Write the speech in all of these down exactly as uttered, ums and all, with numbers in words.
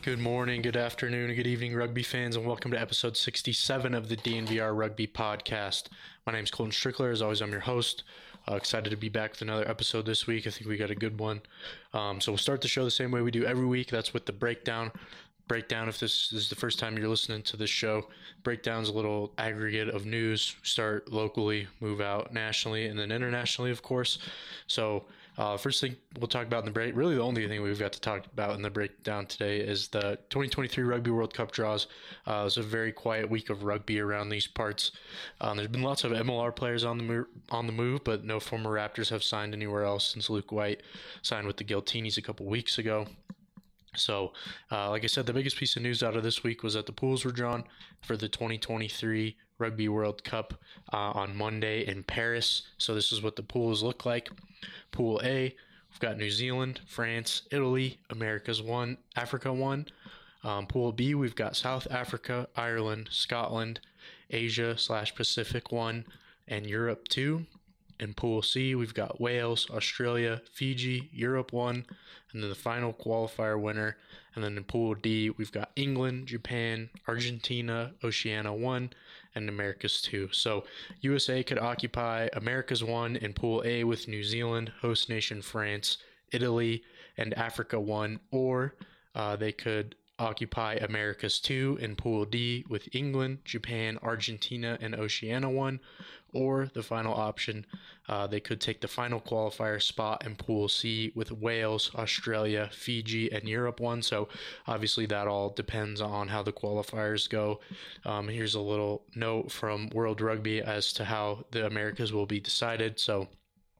Good morning, good afternoon, good evening, rugby fans, and welcome to episode sixty-seven of the D N V R Rugby Podcast. My name is Colton Strickler. As always, I'm your host. Uh, excited to be back with another episode this week. I think we got a good one. Um, so we'll start the show the same way we do every week. That's with the breakdown. Breakdown, if this is the first time you're listening to this show, breakdown's a little aggregate of news. Start locally, move out nationally, and then internationally, of course. So uh, first thing we'll talk about in the break, really the only thing we've got to talk about in the breakdown today is the twenty twenty-three Rugby World Cup draws. Uh, it was a very quiet week of rugby around these parts. Um, there's been lots of M L R players on the move, on the move, but no former Raptors have signed anywhere else since Luke White signed with the Giltinis a couple weeks ago. So, uh, like I said, the biggest piece of news out of this week was that the pools were drawn for the twenty twenty-three Rugby World Cup uh, on Monday in Paris. So this is what the pools look like. Pool A, we've got New Zealand, France, Italy, Americas one, Africa one. Um, Pool B, we've got South Africa, Ireland, Scotland, Asia slash Pacific one, and Europe two. In Pool C, we've got Wales, Australia, Fiji, Europe one, and then the final qualifier winner. And then in Pool D, we've got England, Japan, Argentina, Oceania one, and Americas two. So U S A could occupy Americas one in Pool A with New Zealand, host nation France, Italy, and Africa one, or uh, they could occupy Americas two in Pool D with England, Japan, Argentina, and Oceania one, or the final option, uh, they could take the final qualifier spot in Pool C with Wales, Australia, Fiji, and Europe one. So obviously that all depends on how the qualifiers go. Um, here's a little note from World Rugby as to how the Americas will be decided. So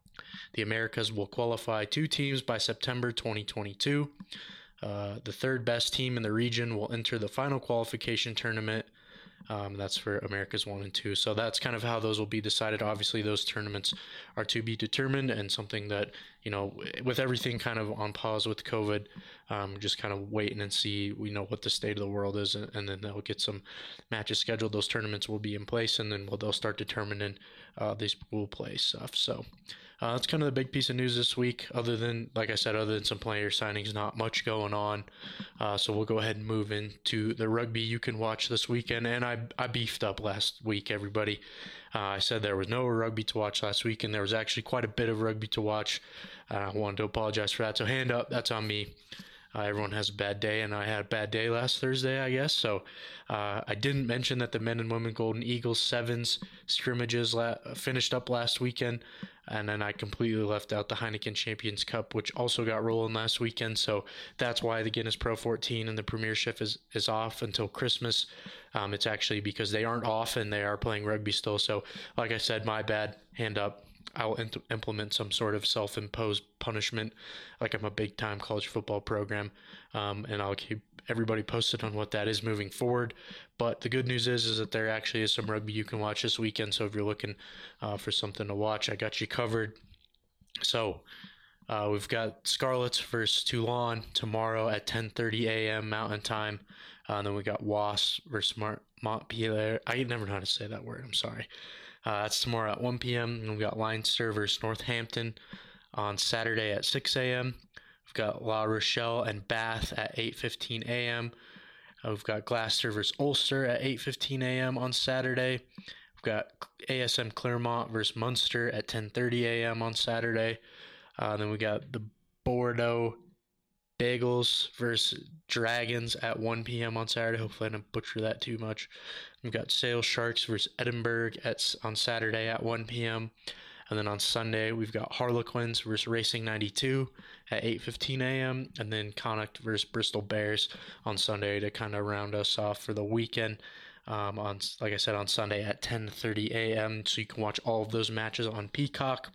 the Americas will qualify two teams by September twenty twenty-two. Uh, the third best team in the region will enter the final qualification tournament. Um, that's for Americas one and two. So that's kind of how those will be decided. Obviously, those tournaments are to be determined, and something that, you know, with everything kind of on pause with COVID, um, just kind of waiting and see, we know what the state of the world is, and, and then they'll get some matches scheduled. Those tournaments will be in place, and then we'll, they'll start determining uh, this pool play stuff. So uh, that's kind of the big piece of news this week. Other than, like I said, other than some player signings, not much going on. Uh, so we'll go ahead and move into the rugby you can watch this weekend. And I, I beefed up last week, everybody. Uh, I said there was no rugby to watch last week, and there was actually quite a bit of rugby to watch. Uh, I wanted to apologize for that. So hand up, that's on me. Uh, everyone has a bad day, and I had a bad day last Thursday, I guess. So uh, I didn't mention that the men and women Golden Eagles sevens scrimmages la- finished up last weekend, and then I completely left out the Heineken Champions Cup, which also got rolling last weekend. So that's why the Guinness Pro fourteen and the Premiership is, is off until Christmas. Um, it's actually because they aren't off and they are playing rugby still. So like I said, my bad, hand up. I'll int- implement some sort of self-imposed punishment, like I'm a big-time college football program, um, and I'll keep everybody posted on what that is moving forward. But the good news is, is that there actually is some rugby you can watch this weekend. So if you're looking uh, for something to watch, I got you covered. So uh, we've got Scarlets versus Toulon tomorrow at ten thirty a.m. Mountain Time. Uh, and then we got Wasps versus Mont- Montpellier. I never know how to say that word. I'm sorry. Uh, that's tomorrow at one p.m. And we've got Leinster versus Northampton on Saturday at six a.m. We've got La Rochelle and Bath at eight fifteen a.m. Uh, we've got Gloucester versus Ulster at eight fifteen a.m. on Saturday. We've got A S M Claremont versus Munster at ten thirty a.m. on Saturday. Uh, then we got the Bordeaux Bagels versus Dragons at one p.m. on Saturday. Hopefully I didn't butcher that too much. We've got Sale Sharks versus Edinburgh at on Saturday at one p.m. And then on Sunday, we've got Harlequins versus Racing ninety-two at eight fifteen a.m. And then Connacht versus Bristol Bears on Sunday to kind of round us off for the weekend. Um, on like I said, on Sunday at ten thirty a.m. So you can watch all of those matches on Peacock.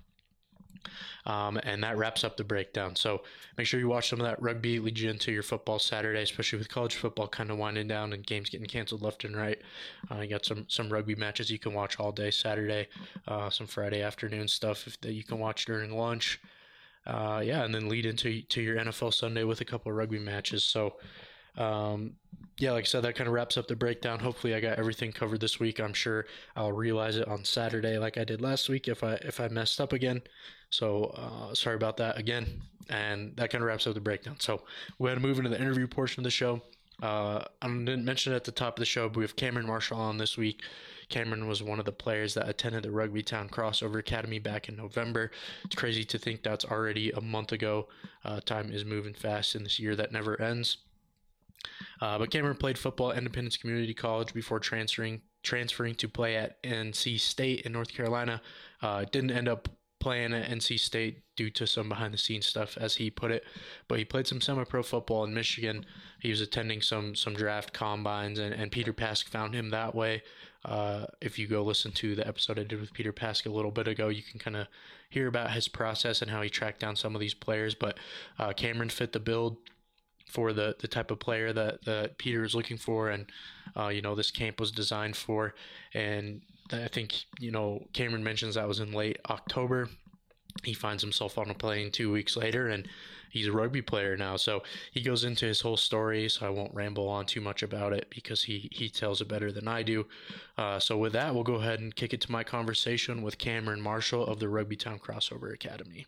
Um, and that wraps up the breakdown. So make sure you watch some of that rugby, lead you into your football Saturday, especially with college football kind of winding down and games getting canceled left and right. Uh, you got some some rugby matches you can watch all day Saturday, uh, some Friday afternoon stuff if, that you can watch during lunch. Uh, yeah, and then lead into to your N F L Sunday with a couple of rugby matches. So um, yeah, like I said, that kind of wraps up the breakdown. Hopefully I got everything covered this week. I'm sure I'll realize it on Saturday like I did last week if I if I messed up again. So uh, sorry about that again. And that kind of wraps up the breakdown. So we're going to move into the interview portion of the show. Uh, I didn't mention it at the top of the show, but we have Cameron Marshall on this week. Cameron was one of the players that attended the Rugby Town Crossover Academy back in November. It's crazy to think that's already a month ago. Uh, time is moving fast in this year that never ends. Uh, but Cameron played football at Independence Community College before transferring transferring to play at N C State in North Carolina. Uh, didn't end up playing at N C State due to some behind the scenes stuff, as he put it. But he played some semi-pro football in Michigan. He was attending some some draft combines, and, and Peter Pask found him that way. Uh, if you go listen to the episode I did with Peter Pask a little bit ago, you can kind of hear about his process and how he tracked down some of these players. But uh, Cameron fit the bill for the, the type of player that, that Peter is looking for, and uh, you know, this camp was designed for. And I think, you know, Cameron mentions that was in late October. He finds himself on a plane two weeks later, and he's a rugby player now. So he goes into his whole story, so I won't ramble on too much about it because he, he tells it better than I do. Uh, so with that, we'll go ahead and kick it to my conversation with Cameron Marshall of the Rugby Town Crossover Academy.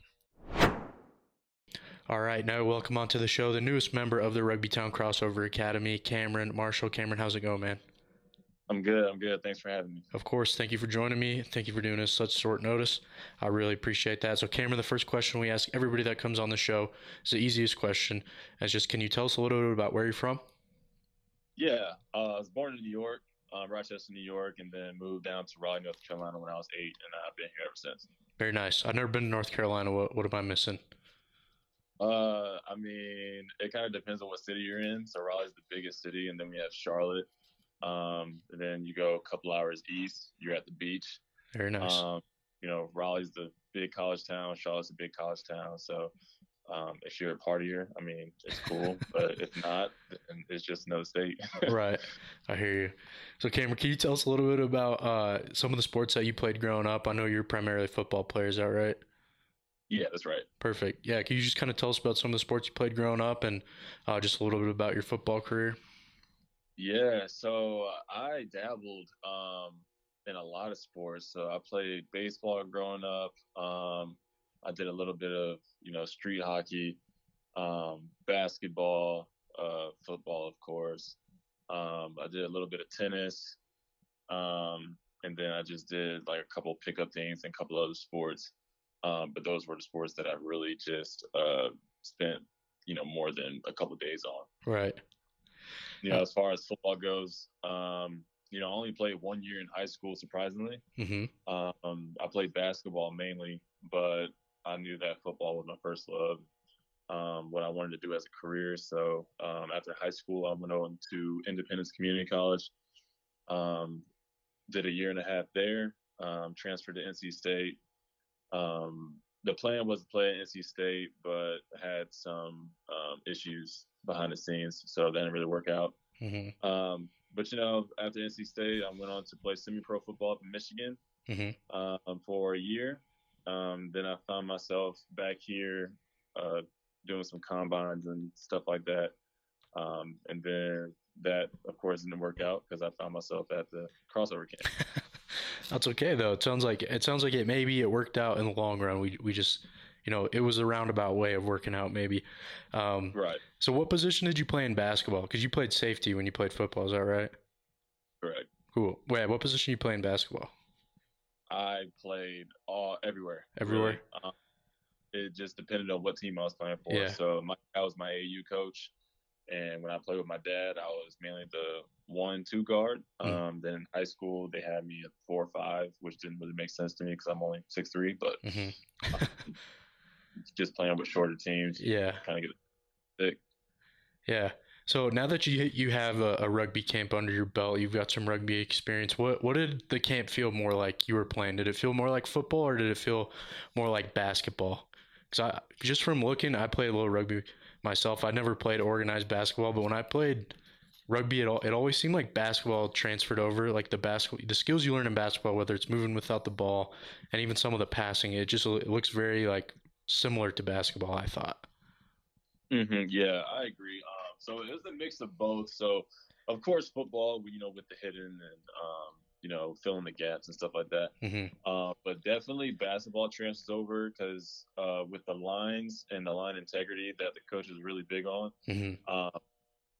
All right, now welcome onto the show the newest member of the Rugby Town Crossover Academy, Cameron Marshall. Cameron, how's it going, man? I'm good. I'm good. Thanks for having me. Of course. Thank you for joining me. Thank you for doing this such short notice. I really appreciate that. So, Cameron, the first question we ask everybody that comes on the show is the easiest question. It's just, can you tell us a little bit about where you're from? Yeah, uh, I was born in New York, uh, Rochester, New York, and then moved down to Raleigh, North Carolina when I was eight, and I've been here ever since. Very nice. I've never been to North Carolina. What, what am I missing? Uh, I mean, it kind of depends on what city you're in. So Raleigh's the biggest city, and then we have Charlotte. Um, and then you go a couple hours east, you're at the beach. Very nice. Um, you know, Raleigh's the big college town. Charlotte's a big college town. So um, if you're a partier, I mean, it's cool. But if not, then it's just another state. Right. I hear you. So, Cameron, can you tell us a little bit about uh, some of the sports that you played growing up? I know you're primarily a football player. Is that right? Yeah, that's right. Perfect. Yeah, can you just kind of tell us about some of the sports you played growing up, and uh, just a little bit about your football career? Yeah, so I dabbled um, in a lot of sports. So I played baseball growing up. Um, I did a little bit of, you know, street hockey, um, basketball, uh, football, of course. Um, I did a little bit of tennis. Um, and then I just did like a couple pickup things and a couple other sports. Um, but those were the sports that I really just uh, spent, you know, more than a couple days on. Right. You know, as far as football goes, um, you know, I only played one year in high school, surprisingly. Mm-hmm. Um, I played basketball mainly, but I knew that football was my first love, um, what I wanted to do as a career. So um, after high school, I went on to Independence Community College, um, did a year and a half there, um, transferred to N C State. Um, the plan was to play at N C State, but had some um, issues behind the scenes, so that didn't really work out. Mm-hmm. Um, but, you know, after N C State, I went on to play semi-pro football up in Michigan Mm-hmm. um, for a year. Um, then I found myself back here uh, doing some combines and stuff like that. Um, and then that, of course, didn't work out because I found myself at the crossover camp. That's okay though. It sounds like it sounds like it maybe it worked out in the long run. We we just, you know, it was a roundabout way of working out maybe. Um, Right. So what position did you play in basketball? Because you played safety when you played football. Is that right? Correct. Cool. Wait, what position you play in basketball? I played all everywhere. Everywhere. Really. Um, it just depended on what team I was playing for. Yeah. So my, I was my A U coach, and when I played with my dad, I was mainly the one, two guard. Mm. Um, then in high school, they had me at four or five, which didn't really make sense to me because I'm only six three. But Mm-hmm. um, just playing with shorter teams, Yeah. kind of get thick. Yeah. So now that you you have a, a rugby camp under your belt, you've got some rugby experience. What what did the camp feel more like you were playing? Did it feel more like football, or did it feel more like basketball? Because I just from looking, I played a little rugby myself. I never played organized basketball, but when I played rugby, it all it always seemed like basketball transferred over. Like the basketball, the skills you learn in basketball, whether it's moving without the ball, and even some of the passing, it just it looks very like similar to basketball, I thought. Mm-hmm. Yeah, I agree. Um, so it was a mix of both. So, of course, football, you know, with the hidden and, um, you know, filling the gaps and stuff like that. Mm-hmm. Uh, but definitely basketball transfers over because uh, with the lines and the line integrity that the coach is really big on, Mm-hmm. uh,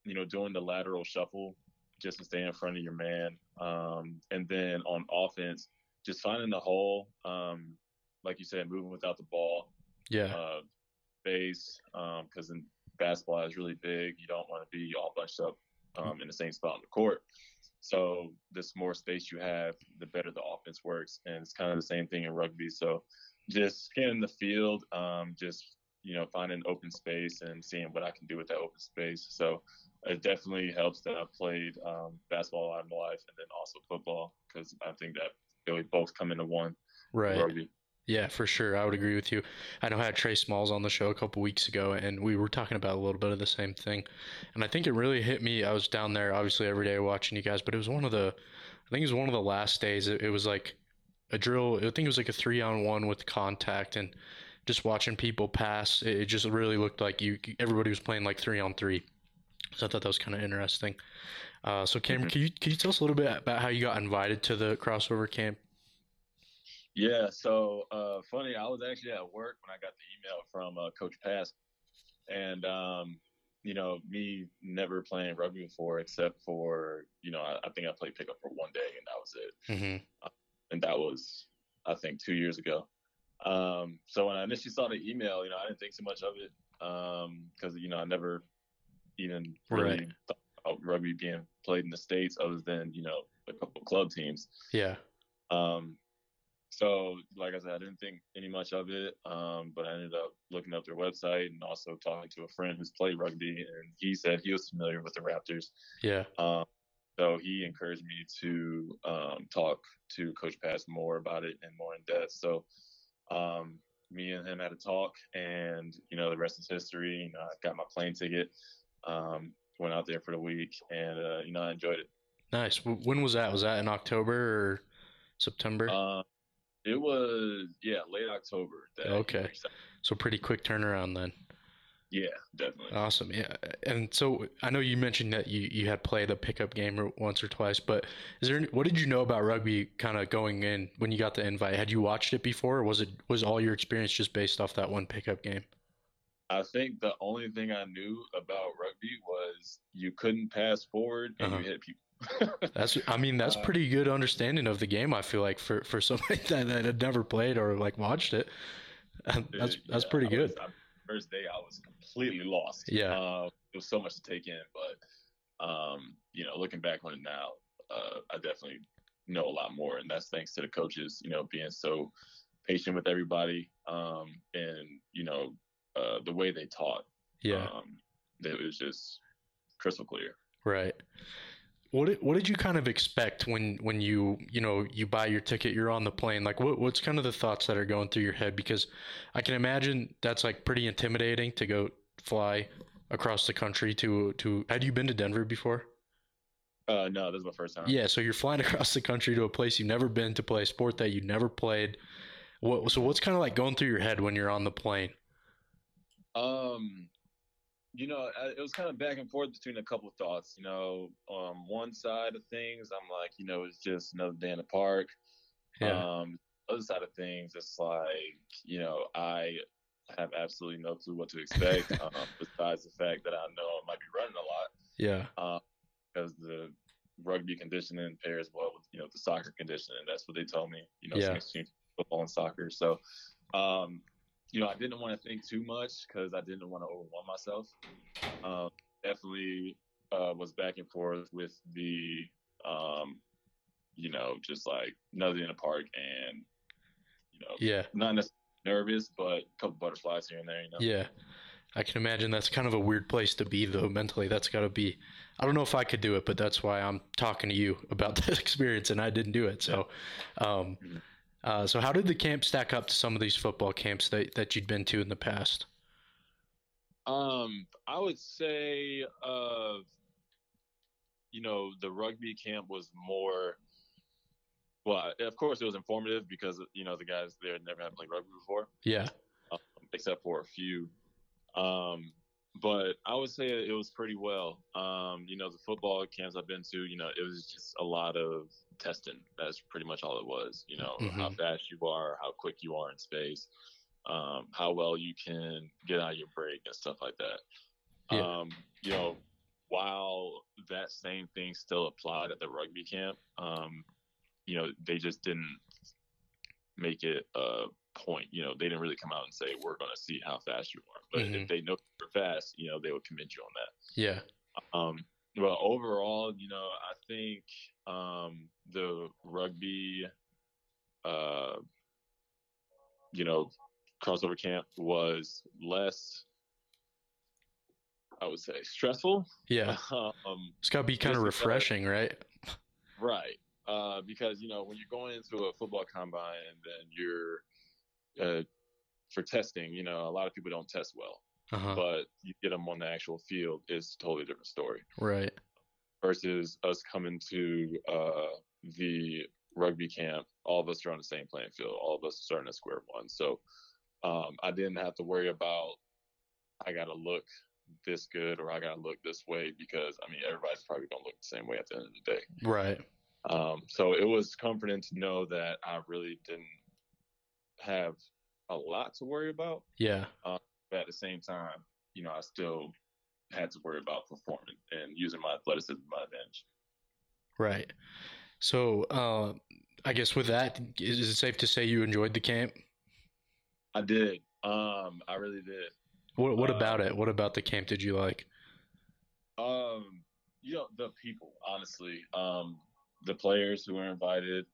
you know, doing the lateral shuffle just to stay in front of your man. Um, and then on offense, just finding the hole, um, like you said, moving without the ball, Yeah. uh, base, because in basketball is really big. You don't want to be all bunched up um, in the same spot on the court. So the more space you have, the better the offense works. And it's kind of the same thing in rugby. So just scanning the field, um, just, you know, finding open space and seeing what I can do with that open space. So it definitely helps that I've played um, basketball all my life and then also football, because I think that they both come into one. Right. Rugby. Yeah, for sure. I would agree with you. I know I had Trey Smalls on the show a couple weeks ago, and we were talking about a little bit of the same thing. And I think it really hit me. I was down there, obviously, every day watching you guys, but it was one of the, I think it was one of the last days. It, it was like a drill. I think it was like a three on one with contact, and just watching people pass. It, it just really looked like you. Everybody was playing like three on three. So I thought that was kind of interesting. Uh, so Cameron, Mm-hmm. can you can you tell us a little bit about how you got invited to the crossover camp? Yeah, so uh, funny, I was actually at work when I got the email from uh, Coach Pass, and um, you know, me never playing rugby before, except for, you know, I, I think I played pickup for one day, and that was it. Mm-hmm. Uh, and that was, I think, two years ago. Um, so when I initially saw the email, you know, I didn't think too much of it, because um, you know, I never even really Right. thought about rugby being played in the States, other than, you know, a couple of club teams. Yeah. Um, So, like I said, I didn't think any much of it, um, but I ended up looking up their website and also talking to a friend who's played rugby, and he said he was familiar with the Raptors. Yeah. Um, so he encouraged me to um, talk to Coach Pass more about it and more in depth. So um, me and him had a talk, and, you know, the rest is history. You know, I got my plane ticket, um, went out there for the week, and, uh, you know, I enjoyed it. Nice. When was that? Was that in October or September? Um, It was, yeah, late October that Okay. he reached out. So pretty quick turnaround then. Yeah, definitely. Awesome. Yeah. And so I know you mentioned that you, you had played a pickup game or once or twice, but is there any, what did you know about rugby kind of going in when you got the invite? Had you watched it before, or was it was all your experience just based off that one pickup game? I think the only thing I knew about rugby was you couldn't pass forward and Uh-huh. you hit people. That's I mean that's uh, pretty good understanding of the game, I feel like, for for somebody that, that had never played or like watched it. That's dude, that's yeah, pretty I was, good. I, first day I was completely lost. Yeah. Uh, it was so much to take in, but um, you know, looking back on it now, uh, I definitely know a lot more, and that's thanks to the coaches, you know, being so patient with everybody, um, and you know, uh, the way they taught. Yeah. Um, it was just crystal clear. Right. What did, what did you kind of expect when, when you, you know, you buy your ticket, you're on the plane? Like what, what's kind of the thoughts that are going through your head? Because I can imagine that's like pretty intimidating to go fly across the country to, to, had you been to Denver before? Uh, no, this is my first time. Yeah. So you're flying across the country to a place you've never been to play a sport that you never played. What, so what's kind of like going through your head when you're on the plane? Um, you know, it was kind of back and forth between a couple of thoughts. You know, on one side of things, I'm like, you know, it's just another day in the park. Yeah. Um, other side of things, it's like, you know, I have absolutely no clue what to expect. um, besides the fact that I know I might be running a lot. Yeah. Um, because the rugby conditioning pairs well with, you know, the soccer conditioning. That's what they told me. You know, Yeah. between football and soccer. So, um, you know, I didn't want to think too much because I didn't want to overwhelm myself. Um, definitely uh, was back and forth with the, um, you know, just like another in the park, and, you know, Yeah. not necessarily nervous, but a couple butterflies here and there, you know. Yeah. I can imagine that's kind of a weird place to be, though, mentally. That's got to be, I don't know if I could do it, but that's why I'm talking to you about that experience, and I didn't do it. So, um, Mhm. uh, so how did the camp stack up to some of these football camps that, that you'd been to in the past? Um, I would say, uh, you know, the rugby camp was more, well, of course it was informative because, you know, the guys there never had played rugby before, Yeah. um, except for a few. Um, but I would say it was pretty well. Um, you know, the football camps I've been to, you know, it was just a lot of testing. That's pretty much all it was. You know, how Mm-hmm. fast you are, how quick you are in space, um, how well you can get out of your break and stuff like that. Yeah. Um, you know, while that same thing still applied at the rugby camp, um, you know, they just didn't make it a point. You know, they didn't really come out and say, we're going to see how fast you are. But Mm-hmm. if they know you're fast, you know, they would commend you on that. Yeah. Um, well, overall, you know, I think um, the rugby, uh, you know, crossover camp was less, I would say, stressful. Yeah. um, It's got to be kind of just because, refreshing, right? right. Uh, because, you know, when you're going into a football combine and then you're uh, for testing, you know, a lot of people don't test well, Uh-huh. but you get them on the actual field, it's a totally different story. Right. Versus us coming to uh, the rugby camp, all of us are on the same playing field. All of us are starting at square one. So um, I didn't have to worry about, I got to look this good or I got to look this way, because, I mean, everybody's probably going to look the same way at the end of the day. Right. Um, so it was comforting to know that I really didn't have a lot to worry about. Yeah. Um, but at the same time, you know, I still had to worry about performing and using my athleticism to my advantage. Right. So, uh, I guess with that, is it safe to say you enjoyed the camp? I did. Um, I really did. What What um, about it? What about the camp did you like? Um, you know, the people, honestly, um, the players who were invited.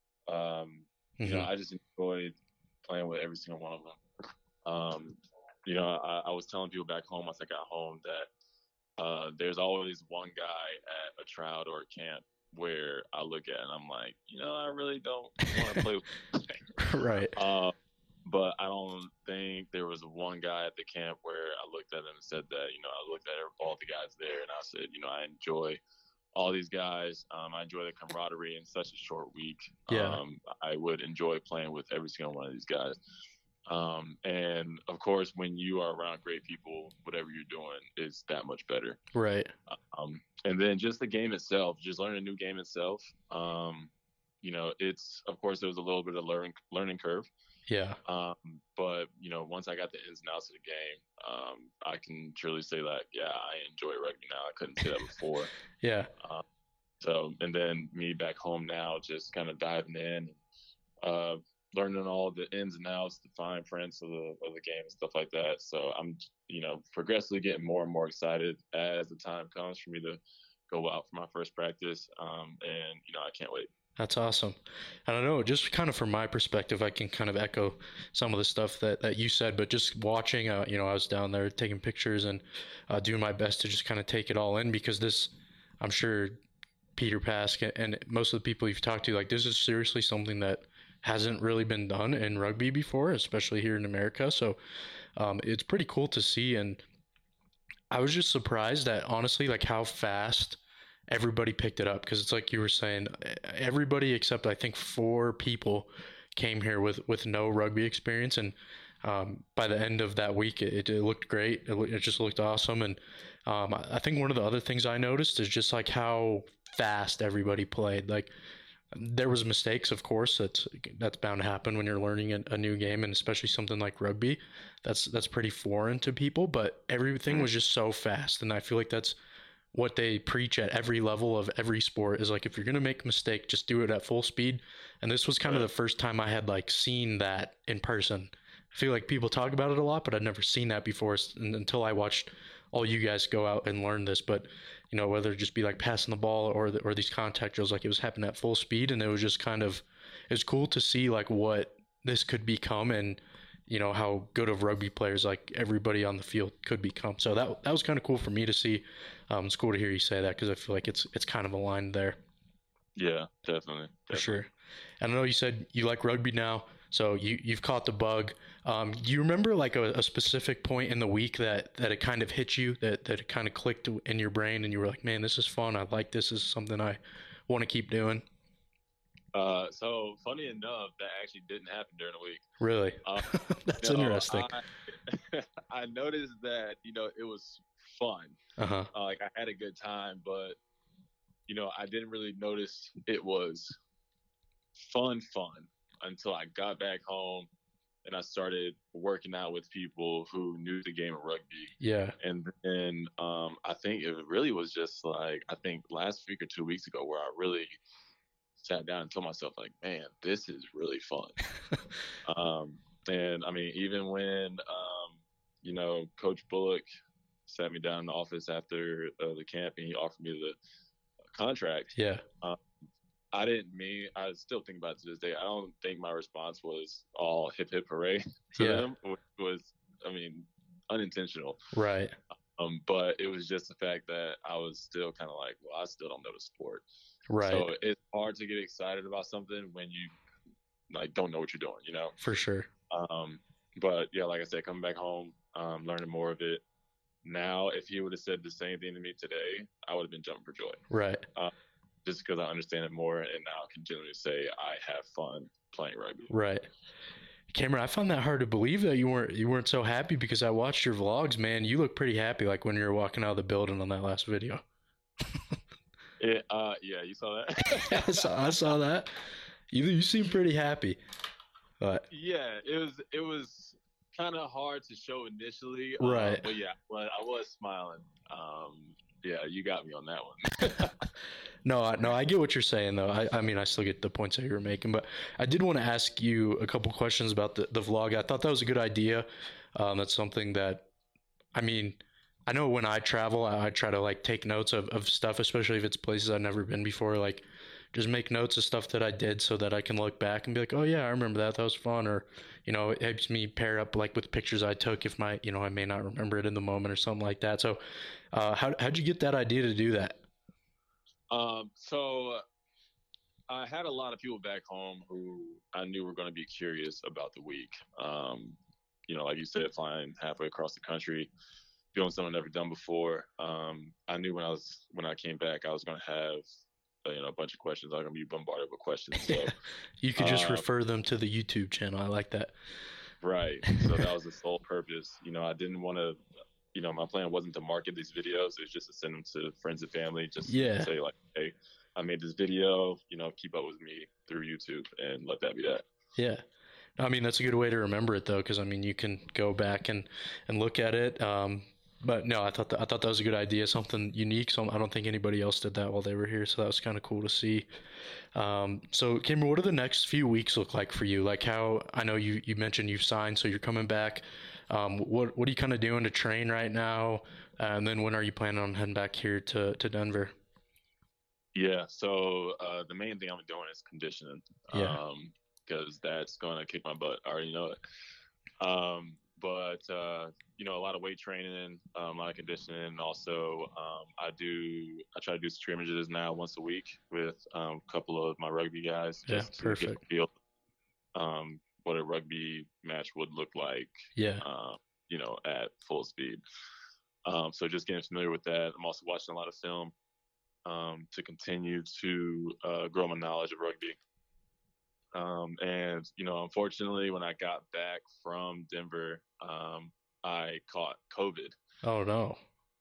Um, you Mm-hmm. know, I just enjoyed playing with every single one of them. Um, you know, I, I was telling people back home once I got home that uh, there's always one guy at a tryout or a camp where I look at and I'm like, you know, I really don't want to play with Right. uh, but I don't think there was one guy at the camp where I looked at him and said that, you know, I looked at all the guys there and I said, you know, I enjoy all these guys. Um, I enjoy the camaraderie in such a short week. Yeah. Um, I would enjoy playing with every single one of these guys. Um, and of course, when you are around great people, whatever you're doing is that much better. Right. Um, and then just the game itself, just learning a new game itself. Um, you know, it's, of course, there was a little bit of learning learning curve. Yeah. Um, but you know, once I got the ins and outs of the game, um, I can truly say that, yeah, I enjoy rugby now. I couldn't say that before. Yeah. Um, so, and then me back home now, just kind of diving in, uh, learning all the ins and outs, the fine prints of the of the game and stuff like that. So I'm, you know, progressively getting more and more excited as the time comes for me to go out for my first practice. Um, and you know, I can't wait. That's awesome. I don't know, just kind of from my perspective, I can kind of echo some of the stuff that, that you said, but just watching, uh, you know, I was down there taking pictures and uh, doing my best to just kind of take it all in, because this, I'm sure Peter Pask and most of the people you've talked to, like, this is seriously something that hasn't really been done in rugby before, especially here in America. So um, it's pretty cool to see. And I was just surprised at, honestly, like how fast everybody picked it up, because it's like you were saying, everybody except I think four people came here with with no rugby experience, and um, by the end of that week, it, it looked great. It, it just looked awesome, and um, I think one of the other things I noticed is just like how fast everybody played. Like there was mistakes, of course. That's that's bound to happen when you're learning a, a new game, and especially something like rugby. That's that's pretty foreign to people, but everything was just so fast, and I feel like that's what they preach at every level of every sport is like, if you're going to make a mistake, just do it at full speed. And this was kind of the first time I had like seen that in person. I feel like people talk about it a lot, but I'd never seen that before until I watched all you guys go out and learn this. But you know, whether it just be like passing the ball or the, or these contact drills, like it was happening at full speed, and it was just kind of, it was cool to see like what this could become, and you know how good of rugby players like everybody on the field could become. So that that was kind of cool for me to see. Um, it's cool to hear you say that, because I feel like it's it's kind of aligned there. Yeah, definitely, For definitely. sure. And I know you said you like rugby now, so you you've caught the bug. Um, do you remember like a, a specific point in the week that that it kind of hit you, that that it kind of clicked in your brain, and you were like, man, this is fun. I like this. This is something I want to keep doing. Uh, so funny enough, that actually didn't happen during the week. Really? Uh, That's no, interesting. I, I noticed that, you know, it was fun. Uh-huh. Uh, like I had a good time, but you know, I didn't really notice it was fun, fun until I got back home and I started working out with people who knew the game of rugby. Yeah. And then um, I think it really was just like, I think last week or two weeks ago where I really sat down and told myself, like, man, this is really fun. um, and I mean, even when, um, you know, Coach Bullock sat me down in the office after uh, the camp and he offered me the contract. Yeah. Um, I didn't mean, I still think about it to this day. I don't think my response was all hip hip hooray to Yeah. them. It was, I mean, unintentional. Right. Um, but it was just the fact that I was still kind of like, well, I still don't know the sport. Right. So it's hard to get excited about something when you like don't know what you're doing, you know? For sure. Um, but yeah, like I said, coming back home, um, learning more of it. Now, if he would have said the same thing to me today, I would have been jumping for joy. Right. Um, just because I understand it more, and now I can genuinely say I have fun playing rugby. Right. Cameron, I found that hard to believe that you weren't you weren't so happy because I watched your vlogs, man. You look pretty happy, like when you were walking out of the building on that last video. It, uh, yeah, you saw that. I saw I saw that. You you seem pretty happy, but yeah, it was it was kind of hard to show initially, right? Uh, but yeah, but I was smiling. Um, yeah, you got me on that one. No, I, no, I get what you're saying though. I, I mean, I still get the points that you were making, but I did want to ask you a couple questions about the, the vlog. I thought that was a good idea. Um, that's something that, I mean, I know when I travel, I, I try to like take notes of, of stuff, especially if it's places I've never been before. Like, just make notes of stuff that I did so that I can look back and be like, oh yeah, I remember that. That was fun. Or, you know, it helps me pair up like with pictures I took if my, you know, I may not remember it in the moment or something like that. So, uh, how how'd you get that idea to do that? Um, so I had a lot of people back home who I knew were going to be curious about the week. Um, you know, like you said, flying halfway across the country, doing something I've never done before. Um, I knew when I was when I came back, I was going to have uh, you know a bunch of questions. I was going to be bombarded with questions. So you could just um, refer them to the YouTube channel. I like that. Right. So that was the sole purpose. You know, I didn't want to. You know, my plan wasn't to market these videos. It was just to send them to friends and family. Just yeah. to say like, hey, I made this video. You know, keep up with me through YouTube and let that be that. Yeah. I mean, that's a good way to remember it though, because I mean, you can go back and, and look at it. Um, but no, I thought that, I thought that was a good idea, something unique. So I don't think anybody else did that while they were here. So that was kind of cool to see. Um, so Cameron, what do the next few weeks look like for you? Like how I know you you mentioned you've signed, so you're coming back. Um, what what are you kind of doing to train right now? Uh, and then when are you planning on heading back here to, to Denver? Yeah, so uh, the main thing I'm doing is conditioning. Yeah. Um, because that's going to kick my butt. I already know it. Um, but, uh, you know, a lot of weight training, um, a lot of conditioning. Also, um, I do, I try to do scrimmages now once a week with um, a couple of my rugby guys. Yeah, Just to perfect. get a feel um, what a rugby match would look like, Yeah. um, you know, at full speed. Um, so just getting familiar with that. I'm also watching a lot of film um, to continue to uh, grow my knowledge of rugby. Um, and, you know, unfortunately, when I got back from Denver, um, I caught COVID. Oh, no.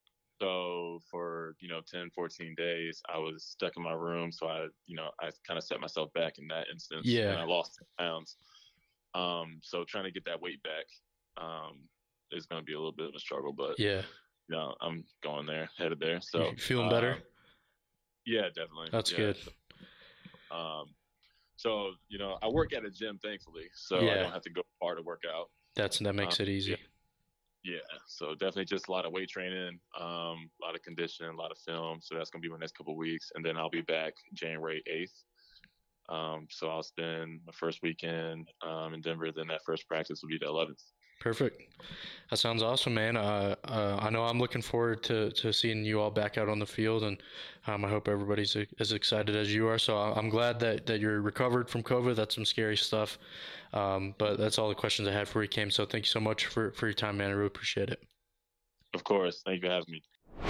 So for, you know, ten, fourteen days, I was stuck in my room. So I, you know, I kind of set myself back in that instance. Yeah. And I lost ten pounds. Um, so trying to get that weight back um, is going to be a little bit of a struggle. But, yeah, you know, I'm going there, headed there. So you feeling better? Um, yeah, definitely. That's yeah. good. Um, So, you know, I work at a gym, thankfully, so Yeah. I don't have to go far to work out. That's that makes Um, it easy. Yeah. yeah, so definitely just a lot of weight training, um, a lot of conditioning, a lot of film. So that's going to be my next couple of weeks. And then I'll be back January eighth. Um, so I'll spend my first weekend um, in Denver. Then that first practice will be the eleventh. Perfect. That sounds awesome, man. Uh, uh, I know I'm looking forward to, to seeing you all back out on the field, and um, I hope everybody's as excited as you are. So I'm glad that, that you're recovered from COVID. That's some scary stuff. Um, but that's all the questions I had for you, Cam. So thank you so much for, for your time, man. I really appreciate it. Of course. Thank you for having me.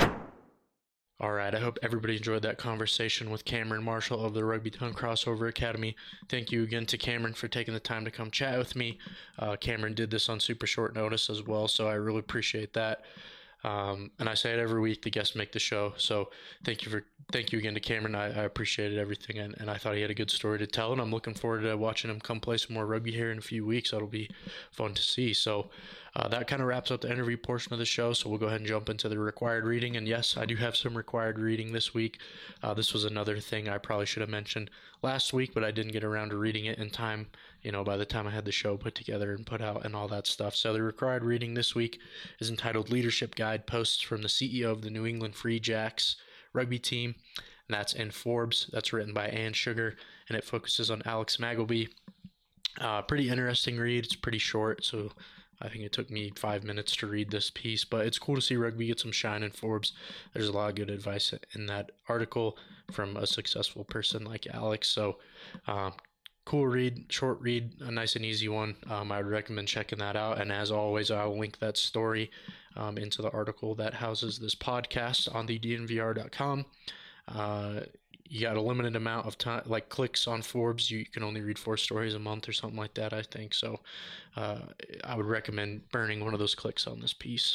All right, I hope everybody enjoyed that conversation with Cameron Marshall of the Rugby Town Crossover Academy. Thank you again to Cameron for taking the time to come chat with me. Uh, Cameron did this on super short notice as well, so I really appreciate that. Um, and I say it every week, the guests make the show. So thank you for thank you again to Cameron. I, I appreciated everything, and, and I thought he had a good story to tell, and I'm looking forward to watching him come play some more rugby here in a few weeks. That'll be fun to see. So uh, that kind of wraps up the interview portion of the show. So we'll go ahead and jump into the required reading. And yes, I do have some required reading this week. Uh, this was another thing I probably should have mentioned last week, but I didn't get around to reading it in time, you know, by the time I had the show put together and put out and all that stuff. So the required reading this week is entitled Leadership Guide, Posts from the C E O of the New England Free Jacks rugby team. And that's in Forbes. That's written by Ann Sugar, and it focuses on Alex Magleby. Uh, pretty interesting read. It's pretty short, so I think it took me five minutes to read this piece, but it's cool to see rugby get some shine in Forbes. There's a lot of good advice in that article from a successful person like Alex. So um, cool read, short read, a nice and easy one. Um, I would recommend checking that out. And as always, I'll link that story um, into the article that houses this podcast on the D N V R dot com. Uh, you got a limited amount of time, like clicks on Forbes. You can only read four stories a month or something like that, I think. So uh, I would recommend burning one of those clicks on this piece.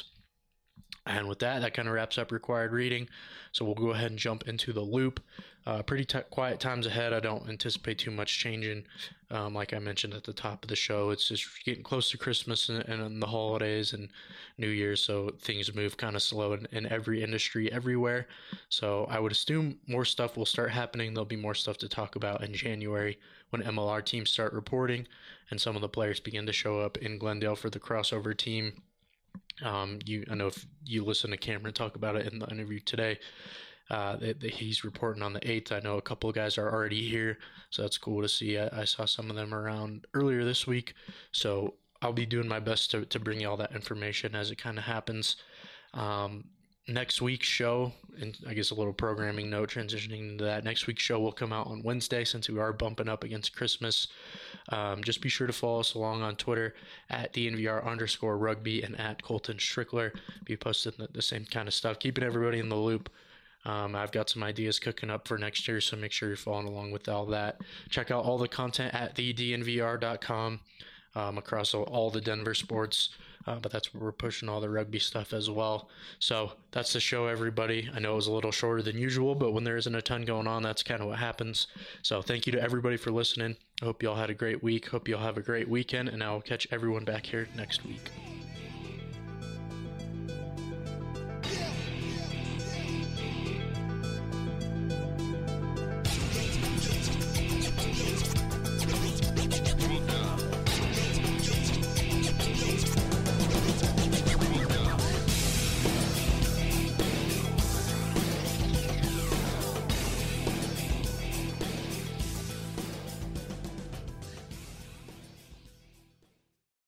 And with that, that kind of wraps up required reading. So we'll go ahead and jump into the loop. Uh, pretty t- quiet times ahead. I don't anticipate too much changing. Um, like I mentioned at the top of the show, it's just getting close to Christmas and, and the holidays and New Year's, so things move kind of slow in, in every industry everywhere. So I would assume more stuff will start happening. There'll be more stuff to talk about in January when M L R teams start reporting and some of the players begin to show up in Glendale for the crossover team. Um, you, I know if you listen to Cameron talk about it in the interview today, uh, that, that he's reporting on the eighth. I know a couple of guys are already here, so that's cool to see. I, I saw some of them around earlier this week, so I'll be doing my best to, to bring you all that information as it kind of happens. Um, next week's show, and I guess a little programming note transitioning into that, next week's show will come out on Wednesday since we are bumping up against Christmas. Um, just be sure to follow us along on Twitter at D N V R underscore rugby and at Colton Strickler. Be posting the, the same kind of stuff, keeping everybody in the loop. Um, I've got some ideas cooking up for next year, so make sure you're following along with all that. Check out all the content at the D N V R dot com um, across all, all the Denver sports, uh, but that's where we're pushing all the rugby stuff as well. So that's the show, everybody. I know it was a little shorter than usual, but when there isn't a ton going on, that's kind of what happens. So thank you to everybody for listening. I hope you all had a great week. Hope you all have a great weekend, and I'll catch everyone back here next week.